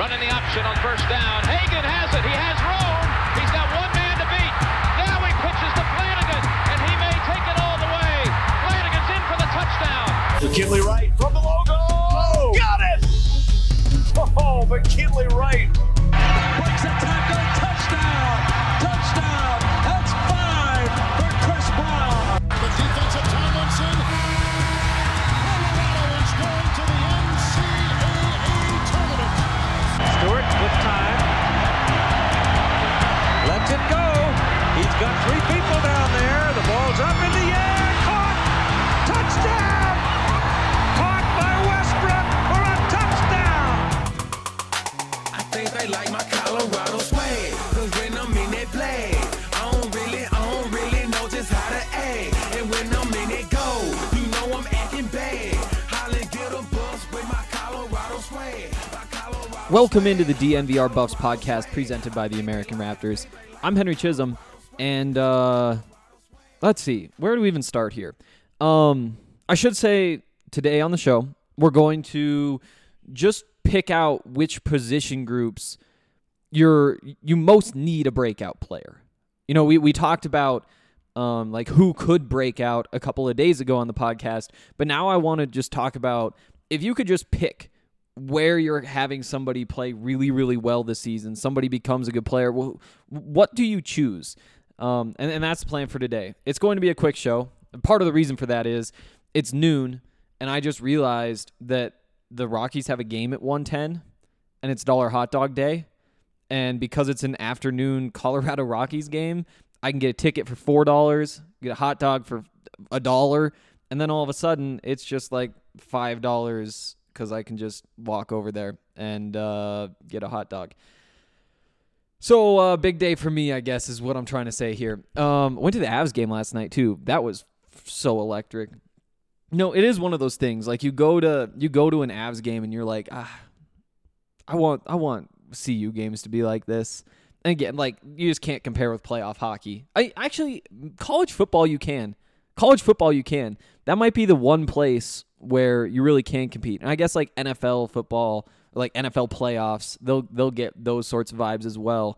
Running the option on first down. Hagan has it. He has room. He's got one man to beat. Now he pitches to Flanagan, and he may take it all the way. Flanagan's in for the touchdown. McKinley Wright from the logo. Oh, got it! Oh, McKinley Wright. Breaks a tackle. Touchdown. Touchdown. That's 5 for Chris Brown. The defensive Tomlinson. Colorado is going to the NCAA tournament. Stewart with time. Lets it go. He's got 3 people down there. The ball's up in the air. Caught. Touchdown. Caught by Westbrook for a touchdown. I think they like my Colorado swag. Cause when I'm in that play, I don't really know just how to act. And when I'm in it go, you know I'm acting bad. Holly get a bus with my Colorado swag. Welcome into the DNVR Buffs podcast presented by the American Raptors. I'm Henry Chisholm, and let's see, where do we even start here? I should say today on the show, we're going to just pick out which position groups you most need a breakout player. You know, we talked about like who could break out a couple of days ago on the podcast, but now I want to just talk about if you could just pick where you're having somebody play really, really well this season, somebody becomes a good player, what do you choose? And that's the plan for today. It's going to be a quick show. Part of the reason for that is it's noon, and I just realized that the Rockies have a game at 1:10, and it's Dollar Hot Dog Day. And because it's an afternoon Colorado Rockies game, I can get a ticket for $4, get a hot dog for $1, and then all of a sudden it's just like $5 because I can just walk over there and get a hot dog. So big day for me, I guess, is what I'm trying to say here. Went to the Avs game last night too. That was so electric. No, it is one of those things. Like you go to an Avs game and you're like, I want CU games to be like this. And again, like you just can't compare with playoff hockey. College football you can. That might be the one place where you really can compete. And I guess like NFL football, like NFL playoffs, they'll get those sorts of vibes as well.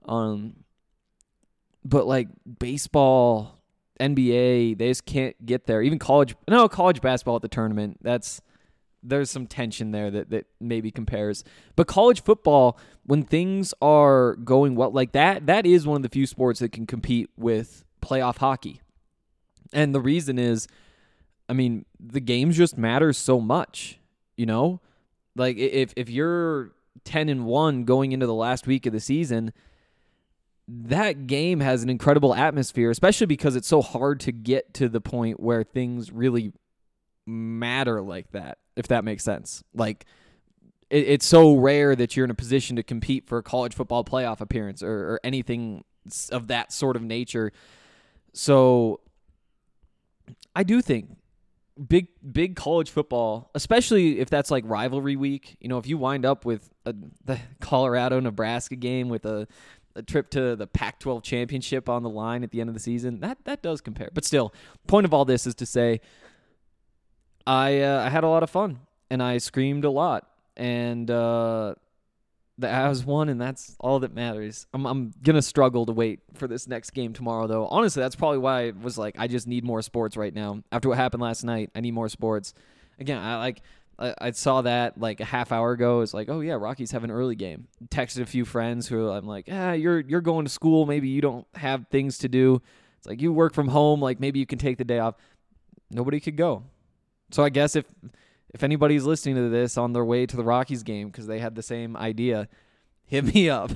But like baseball, NBA, they just can't get there. Even college basketball at the tournament, there's some tension there that maybe compares. But college football, when things are going well, like that is one of the few sports that can compete with playoff hockey. And the reason is, I mean, the games just matter so much, you know? Like if you're 10-1 going into the last week of the season, that game has an incredible atmosphere, especially because it's so hard to get to the point where things really matter like that, if that makes sense. Like it's so rare that you're in a position to compete for a college football playoff appearance or anything of that sort of nature. So I do think big college football, especially if that's like rivalry week, you know, if you wind up with the Colorado-Nebraska game with a trip to the Pac-12 championship on the line at the end of the season, that does compare. But still, point of all this is to say I had a lot of fun, and I screamed a lot, and the Avs won, and that's all that matters. I'm going to struggle to wait for this next game tomorrow, though. Honestly, that's probably why I was like, I just need more sports right now. After what happened last night, I need more sports. Again, I saw that like a half hour ago. It's like, oh, yeah, Rockies have an early game. Texted a few friends who I'm like, you're going to school. Maybe you don't have things to do. It's like you work from home. Like maybe you can take the day off. Nobody could go. So I guess if anybody's listening to this on their way to the Rockies game because they had the same idea, hit me up.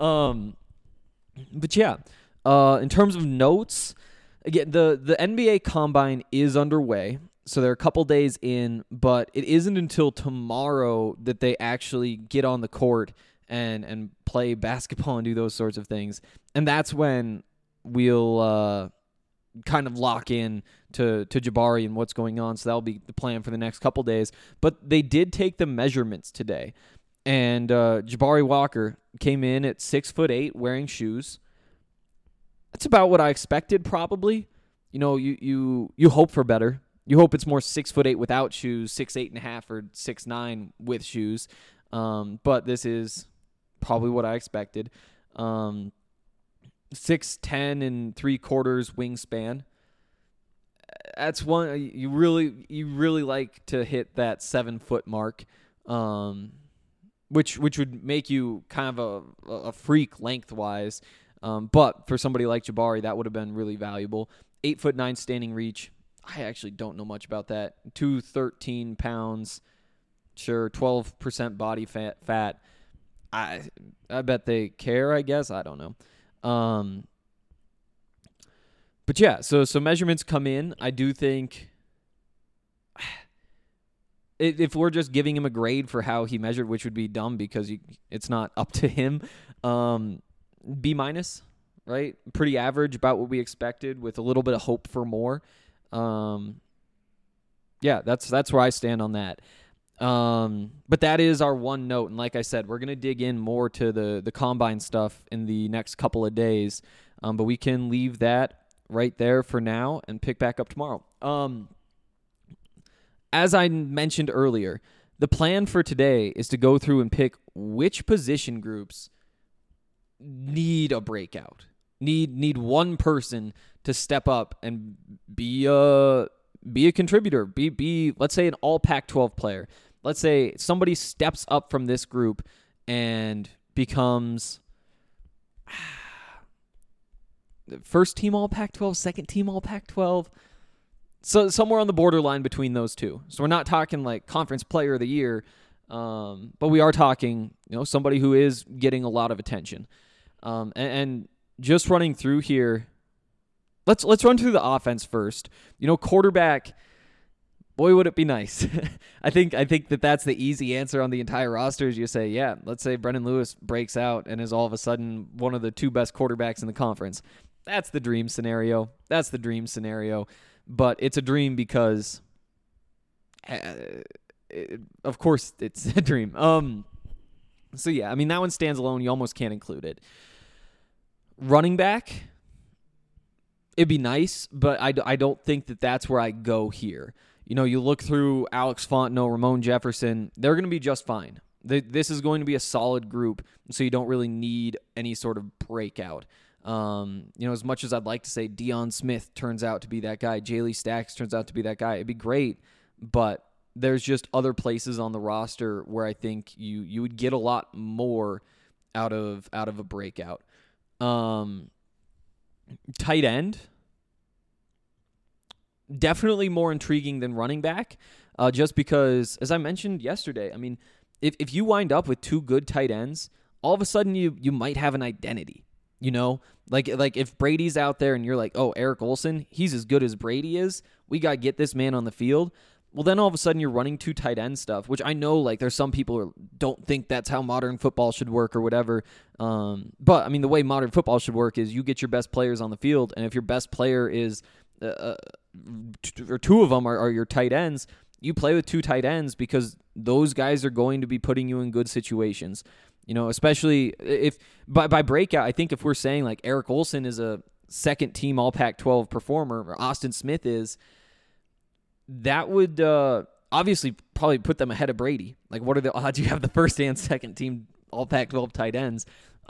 But yeah, in terms of notes, again, the NBA Combine is underway. So they're a couple days in, but it isn't until tomorrow that they actually get on the court and play basketball and do those sorts of things. And that's when we'll kind of lock in to Jabari and what's going on. So that'll be the plan for the next couple days. But they did take the measurements today. And Jabari Walker came in at 6'8", wearing shoes. That's about what I expected, probably. You know, you hope for better. You hope it's more 6'8" without shoes, 6'8.5" or 6'9" with shoes. But this is probably what I expected. 6'10" and 3/4 wingspan. That's one you really like to hit that 7-foot mark, which would make you kind of a freak lengthwise. But for somebody like Jabari, that would have been really valuable. 8'9" standing reach. I actually don't know much about that. 213 pounds. Sure, 12% body fat. I bet they care, I guess. I don't know. But yeah, so measurements come in. I do think if we're just giving him a grade for how he measured, which would be dumb because it's not up to him, B-, right? Pretty average, about what we expected, with a little bit of hope for more. Yeah, that's where I stand on that. But that is our one note, and like I said, we're gonna dig in more to the combine stuff in the next couple of days. But we can leave that right there for now and pick back up tomorrow. As I mentioned earlier, the plan for today is to go through and pick which position groups need a breakout. Need one person to step up and be a contributor. Be let's say an all Pac-12 player. Let's say somebody steps up from this group and becomes first team all Pac-12, second team all Pac-12. So somewhere on the borderline between those two. So we're not talking like conference player of the year, but we are talking, somebody who is getting a lot of attention. And just running through here, let's run through the offense first. Quarterback, boy, would it be nice. I think that's the easy answer on the entire roster. Is you say, yeah, let's say Brendan Lewis breaks out and is all of a sudden one of the 2 best quarterbacks in the conference. That's the dream scenario. But it's a dream because, of course, it's a dream. So yeah, I mean, that one stands alone. You almost can't include it. Running back, it'd be nice, but I don't think that's where I go here. You look through Alex Fontenot, Ramon Jefferson, they're going to be just fine. This is going to be a solid group, so you don't really need any sort of breakout. As much as I'd like to say Deion Smith turns out to be that guy, Jaylee Stacks turns out to be that guy, it'd be great, but there's just other places on the roster where I think you would get a lot more out of a breakout. Tight end, definitely more intriguing than running back, just because, as I mentioned yesterday, I mean, if you wind up with 2 good tight ends, all of a sudden you might have an identity. Like if Brady's out there and you're like, oh, Eric Olsen, he's as good as Brady is, we got to get this man on the field. Well, then all of a sudden you're running 2 tight end stuff, which I know like there's some people who don't think that's how modern football should work or whatever. But I mean, the way modern football should work is you get your best players on the field, and if your best player is or 2 of them are your tight ends, you play with 2 tight ends because those guys are going to be putting you in good situations. Especially if by breakout, I think if we're saying like Eric Olsen is a second team all Pac-12 performer, or Austin Smith is, that would obviously probably put them ahead of Brady. Like, what are the odds you have the first and second team all Pac-12 tight ends?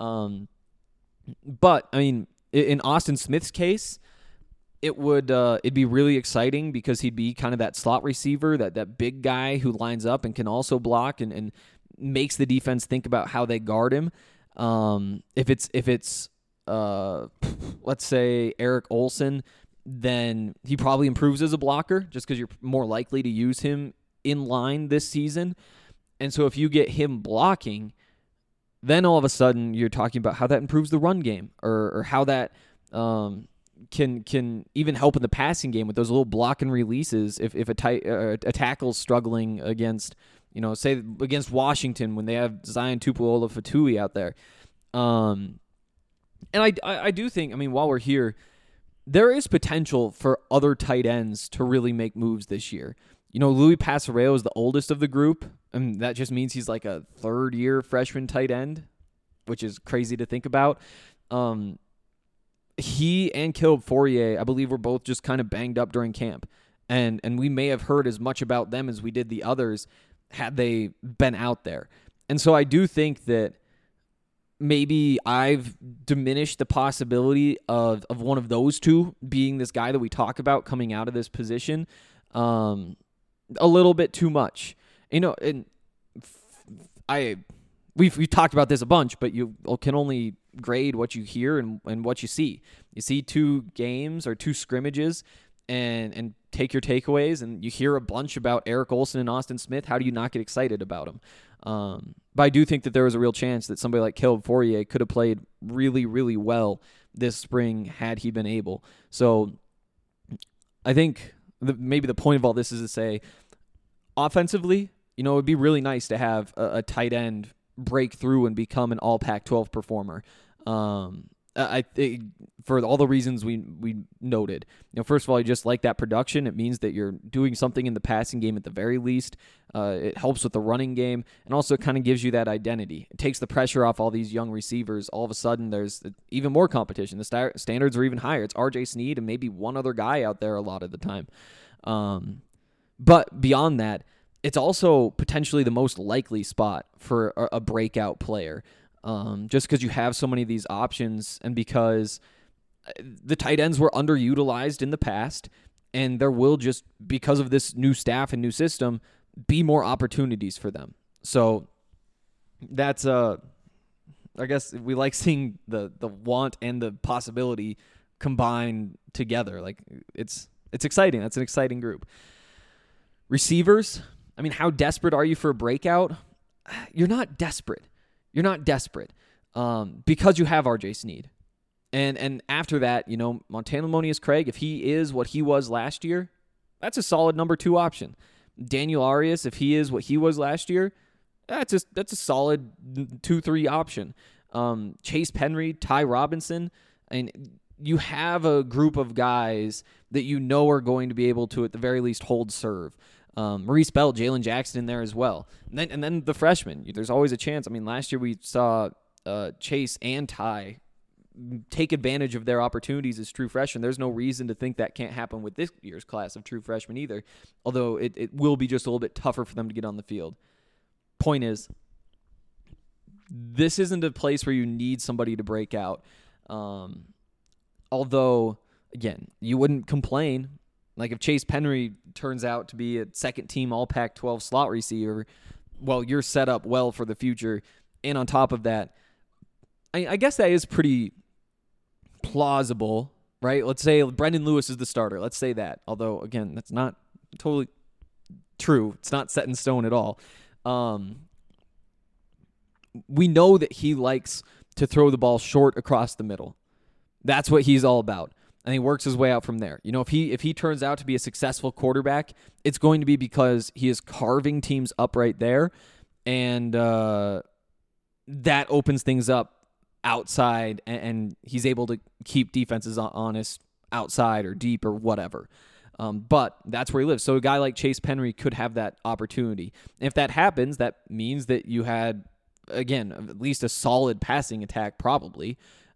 But I mean, in Austin Smith's case, it'd be really exciting because he'd be kind of that slot receiver, that big guy who lines up and can also block and makes the defense think about how they guard him. If it's let's say Eric Olsen, then he probably improves as a blocker just because you're more likely to use him in line this season. And so if you get him blocking, then all of a sudden you're talking about how that improves the run game or how that can even help in the passing game with those little block and releases. If a tackle's struggling against, say against Washington when they have Zion Tupuola-Fatui out there. And I do think, I mean, while we're here, there is potential for other tight ends to really make moves this year. Louis Pasareo is the oldest of the group, and that just means he's like a third-year freshman tight end, which is crazy to think about. He and Caleb Fourier, I believe, were both just kind of banged up during camp, and we may have heard as much about them as we did the others had they been out there. And so I do think that maybe I've diminished the possibility of one of those two being this guy that we talk about coming out of this position a little bit too much. And we've talked about this a bunch, but you can only grade what you hear and what you see. You see 2 games or 2 scrimmages and take your takeaways, and you hear a bunch about Eric Olson and Austin Smith. How do you not get excited about them? But I do think that there was a real chance that somebody like Caleb Fourier could have played really, really well this spring had he been able. So I think maybe the point of all this is to say, offensively, it would be really nice to have a tight end break through and become an all Pac-12 performer. I think for all the reasons we noted. First of all, you just like that production. It means that you're doing something in the passing game at the very least. It helps with the running game, and also it kind of gives you that identity. It takes the pressure off all these young receivers. All of a sudden, there's even more competition. The standards are even higher. It's R.J. Sneed and maybe one other guy out there a lot of the time. But beyond that, it's also potentially the most likely spot for a breakout player. Just because you have so many of these options, and because the tight ends were underutilized in the past, and there will just, because of this new staff and new system, be more opportunities for them. So that's I guess we like seeing the want and the possibility combined together. Like it's exciting. That's an exciting group. Receivers, I mean, how desperate are you for a breakout? You're not desperate. You're not desperate because you have R.J. Sneed. And after that, Montana Monius Craig, if he is what he was last year, that's a solid number 2 option. Daniel Arias, if he is what he was last year, that's a solid 2-3 option. Chase Penry, Ty Robinson, and you have a group of guys that are going to be able to, at the very least, hold serve. Maurice Bell, Jalen Jackson in there as well. And then the freshmen. There's always a chance. I mean, last year we saw Chase and Ty take advantage of their opportunities as true freshmen. There's no reason to think that can't happen with this year's class of true freshmen either, although it will be just a little bit tougher for them to get on the field. Point is, this isn't a place where you need somebody to break out. Although, again, you wouldn't complain. Like if Chase Penry turns out to be a second-team All-Pac-12 slot receiver, well, you're set up well for the future. And on top of that, I guess that is pretty plausible, right? Let's say Brendan Lewis is the starter. Let's say that. Although, again, that's not totally true. It's not set in stone at all. We know that he likes to throw the ball short across the middle. That's what he's all about. And he works his way out from there. If he turns out to be a successful quarterback, it's going to be because he is carving teams up right there, and that opens things up outside, and he's able to keep defenses honest outside or deep or whatever. But that's where he lives. So a guy like Chase Penry could have that opportunity. And if that happens, that means that you had, again, at least a solid passing attack probably.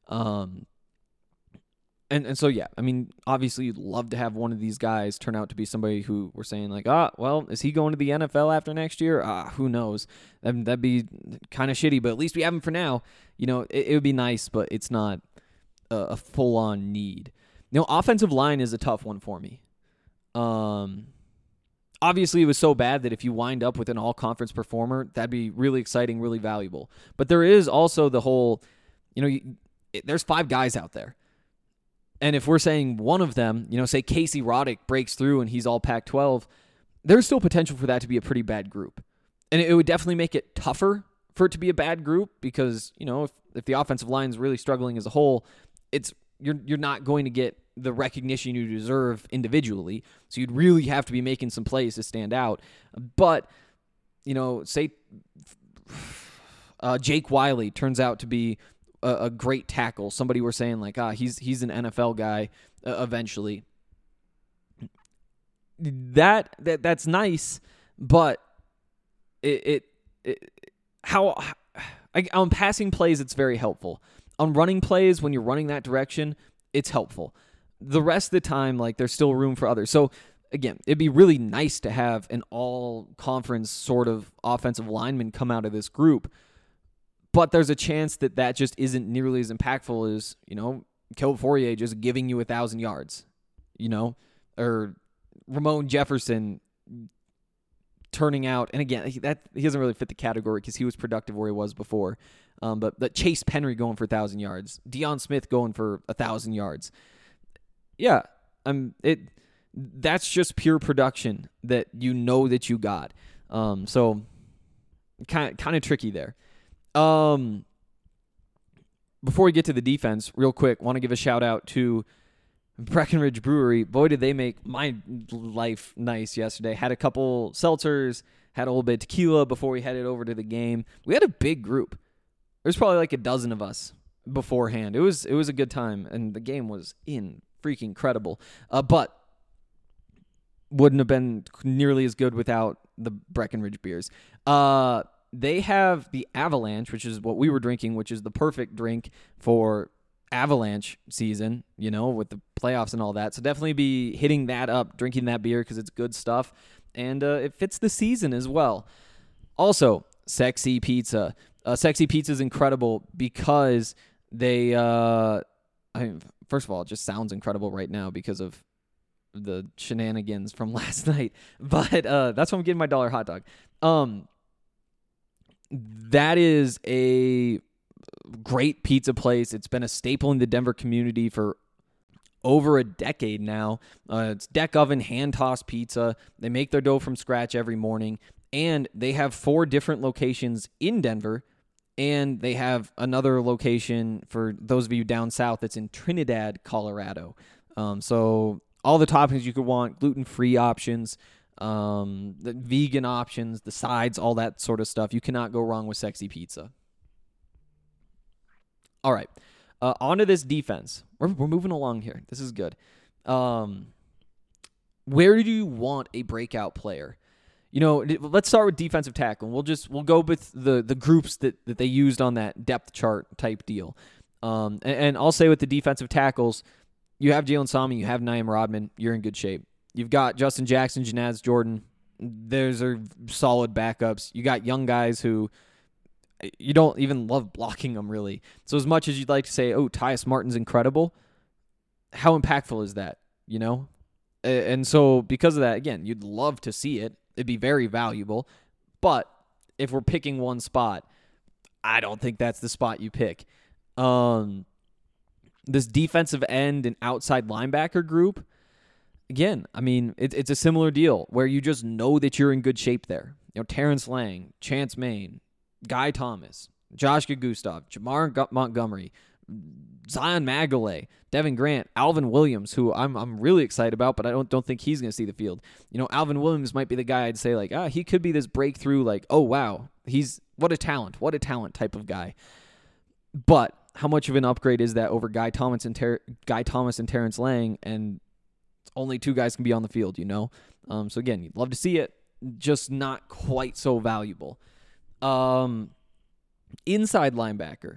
And so, yeah, I mean, obviously you'd love to have one of these guys turn out to be somebody who we're saying like, well, is he going to the NFL after next year? Who knows? That'd be kind of shitty, but at least we have him for now. It would be nice, but it's not a full-on need. Offensive line is a tough one for me. Obviously, it was so bad that if you wind up with an all-conference performer, that'd be really exciting, really valuable. But there is also the whole, there's 5 guys out there. And if we're saying one of them, say Casey Roddick breaks through and he's all Pac-12, there's still potential for that to be a pretty bad group. And it would definitely make it tougher for it to be a bad group because, if the offensive line is really struggling as a whole, you're not going to get the recognition you deserve individually. So you'd really have to be making some plays to stand out. But, say Jake Wiley turns out to be a great tackle. Somebody we're saying like, he's an NFL guy eventually. That's nice, but on passing plays it's very helpful. On running plays, when you're running that direction, it's helpful. The rest of the time, like there's still room for others. So again, it'd be really nice to have an all-conference sort of offensive lineman come out of this group, but there's a chance that that just isn't nearly as impactful as, Caleb Fourier just giving you 1,000 yards, or Ramon Jefferson turning out, and again, he doesn't really fit the category because he was productive where he was before. But Chase Penry going for 1,000 yards, Deion Smith going for 1,000 yards. Yeah, that's just pure production that that you got. So kind of tricky there. Before we get to the defense, real quick, want to give a shout out to Breckenridge Brewery. Boy, did they make my life nice yesterday. Had a couple seltzers, had a little bit of tequila before we headed over to the game. We had a big group. There's probably like a dozen of us beforehand. It was a good time, and the game was freaking incredible. But wouldn't have been nearly as good without the Breckenridge beers. They have the Avalanche, which is what we were drinking, which is the perfect drink for Avalanche season, with the playoffs and all that. So definitely be hitting that up, drinking that beer because it's good stuff, and it fits the season as well. Also, Sexy Pizza. Sexy Pizza is incredible because they, first of all, it just sounds incredible right now because of the shenanigans from last night. But that's why I'm getting my $1 hot dog. That is a great pizza place. It's been a staple in the Denver community for over a decade now. It's deck oven, hand-tossed pizza. They make their dough from scratch every morning. And they have 4 different locations in Denver. And they have another location for those of you down south that's in Trinidad, Colorado. So all the toppings you could want, gluten-free options, the vegan options, the sides, all that sort of stuff. You cannot go wrong with Sexy Pizza. All right, on to this defense. We're moving along here. This is good. Where do you want a breakout player? Let's start with defensive tackle. We'll go with the groups that they used on that depth chart type deal. And I'll say with the defensive tackles, you have Jalen Sami, you have Naim Rodman, you're in good shape. You've got Justin Jackson, Janaz Jordan. Those are solid backups. You got young guys who you don't even love blocking them, really. So as much as you'd like to say, oh, Tyus Martin's incredible, how impactful is that, And so because of that, again, you'd love to see it. It'd be very valuable. But if we're picking one spot, I don't think that's the spot you pick. This defensive end and outside linebacker group, again, it's a similar deal where you just know that you're in good shape there. Terrence Lang, Chance Main, Guy Thomas, Josh Gustav, Jamar Montgomery, Zion Magalay, Devin Grant, Alvin Williams, who I'm really excited about, but I don't think he's going to see the field. Alvin Williams might be the guy I'd say he could be this breakthrough, oh wow, what a talent type of guy. But how much of an upgrade is that over Guy Thomas and Terrence Lang, and only 2 guys can be on the field, So again, you'd love to see it, just not quite so valuable. Inside linebacker,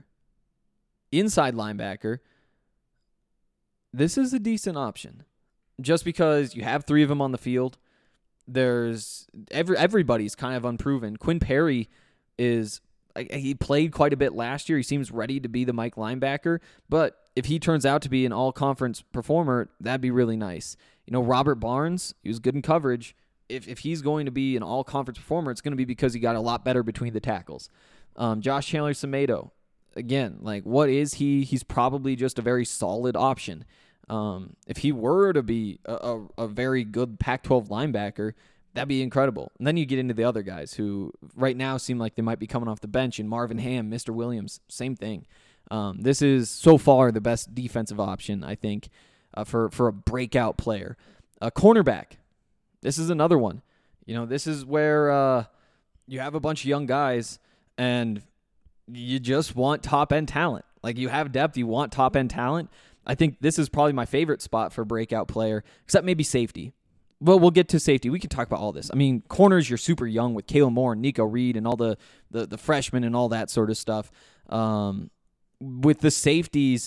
this is a decent option. Just because you have 3 of them on the field, there's everybody's kind of unproven. Quinn Perry he played quite a bit last year. He seems ready to be the Mike linebacker, but if he turns out to be an all-conference performer, that'd be really nice. Robert Barnes, he was good in coverage. If he's going to be an all-conference performer, it's going to be because he got a lot better between the tackles. Josh Chandler-Semedo, again, what is he? He's probably just a very solid option. If he were to be a very good Pac-12 linebacker, that'd be incredible. And then you get into the other guys who right now seem like they might be coming off the bench, and Marvin Ham, Mr. Williams, same thing. This is so far the best defensive option, I think, for a breakout player. Cornerback, this is another one. This is where you have a bunch of young guys, and you just want top-end talent. You have depth, you want top-end talent. I think this is probably my favorite spot for breakout player, except maybe safety. Well, we'll get to safety. We can talk about all this. Corners, you're super young with Kalen Moore and Nico Reed and all the freshmen and all that sort of stuff. With the safeties,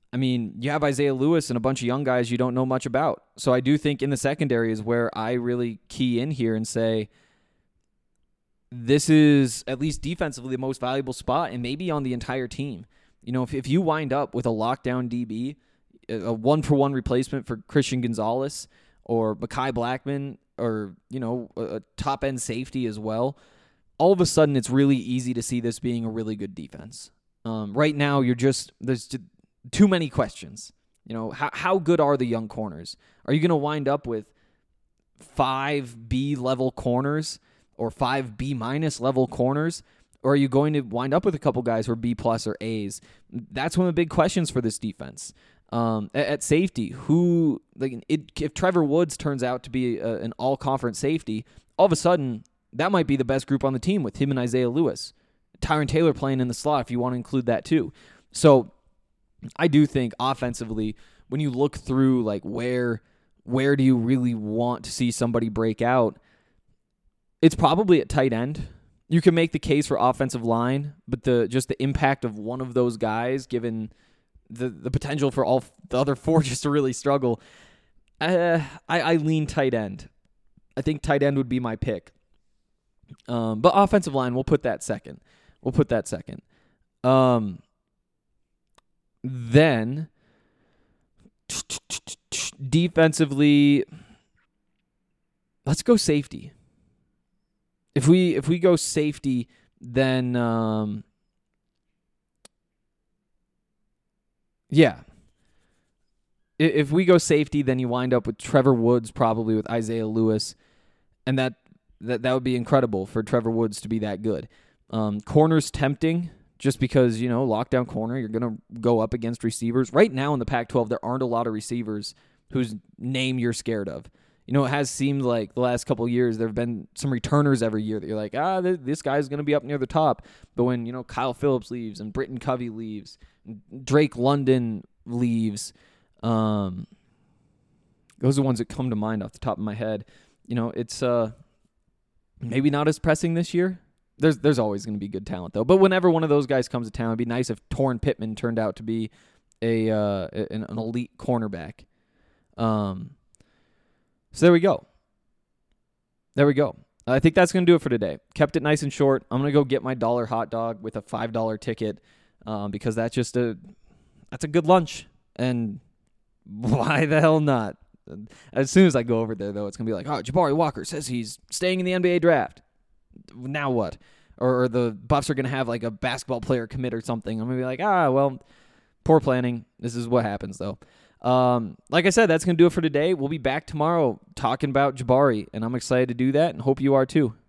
I mean, you have Isaiah Lewis and a bunch of young guys you don't know much about. So I do think in the secondary is where I really key in here and say this is, at least defensively, the most valuable spot and maybe on the entire team. You know, if you wind up with a lockdown DB, a one-for-one replacement for Christian Gonzalez or Mekhi Blackman or, you know, a top-end safety as well, all of a sudden it's really easy to see this being a really good defense. Right now, there's too many questions. You know, how good are the young corners? Are you going to wind up with 5 B-level corners or 5 B- level corners? Or are you going to wind up with a couple guys who are B+ or A's? That's one of the big questions for this defense. At safety, if Trevor Woods turns out to be an all-conference safety, all of a sudden, that might be the best group on the team with him and Isaiah Lewis. Tyron Taylor playing in the slot if you want to include that too. So I do think offensively, when you look through like where do you really want to see somebody break out, it's probably at tight end. You can make the case for offensive line, but the impact of one of those guys, given the potential for all the other 4 just to really struggle, I lean tight end. I think tight end would be my pick. But offensive line, we'll put that second. Then defensively, let's go safety. If we go safety, then yeah. If we go safety, then you wind up with Trevor Woods, probably with Isaiah Lewis, and that would be incredible for Trevor Woods to be that good. Corner's tempting, just because, you know, lockdown corner, you're going to go up against receivers. Right now in the Pac-12, there aren't a lot of receivers whose name you're scared of. You know, it has seemed like the last couple of years there have been some returners every year that you're like, this guy's going to be up near the top. But when, you know, Kyle Phillips leaves and Britton Covey leaves, Drake London leaves, those are the ones that come to mind off the top of my head. You know, it's maybe not as pressing this year. There's always going to be good talent, though. But whenever one of those guys comes to town, it'd be nice if Torrin Pittman turned out to be an elite cornerback. So there we go. I think that's going to do it for today. Kept it nice and short. I'm going to go get my $1 hot dog with a $5 ticket because that's a good lunch. And why the hell not? As soon as I go over there, though, it's going to be like, Jabari Walker says he's staying in the NBA draft. Now what? Or the Buffs are going to have like a basketball player commit or something. I'm going to be like, well, poor planning. This is what happens, though. Like I said, that's going to do it for today. We'll be back tomorrow talking about Jabari, and I'm excited to do that and hope you are too.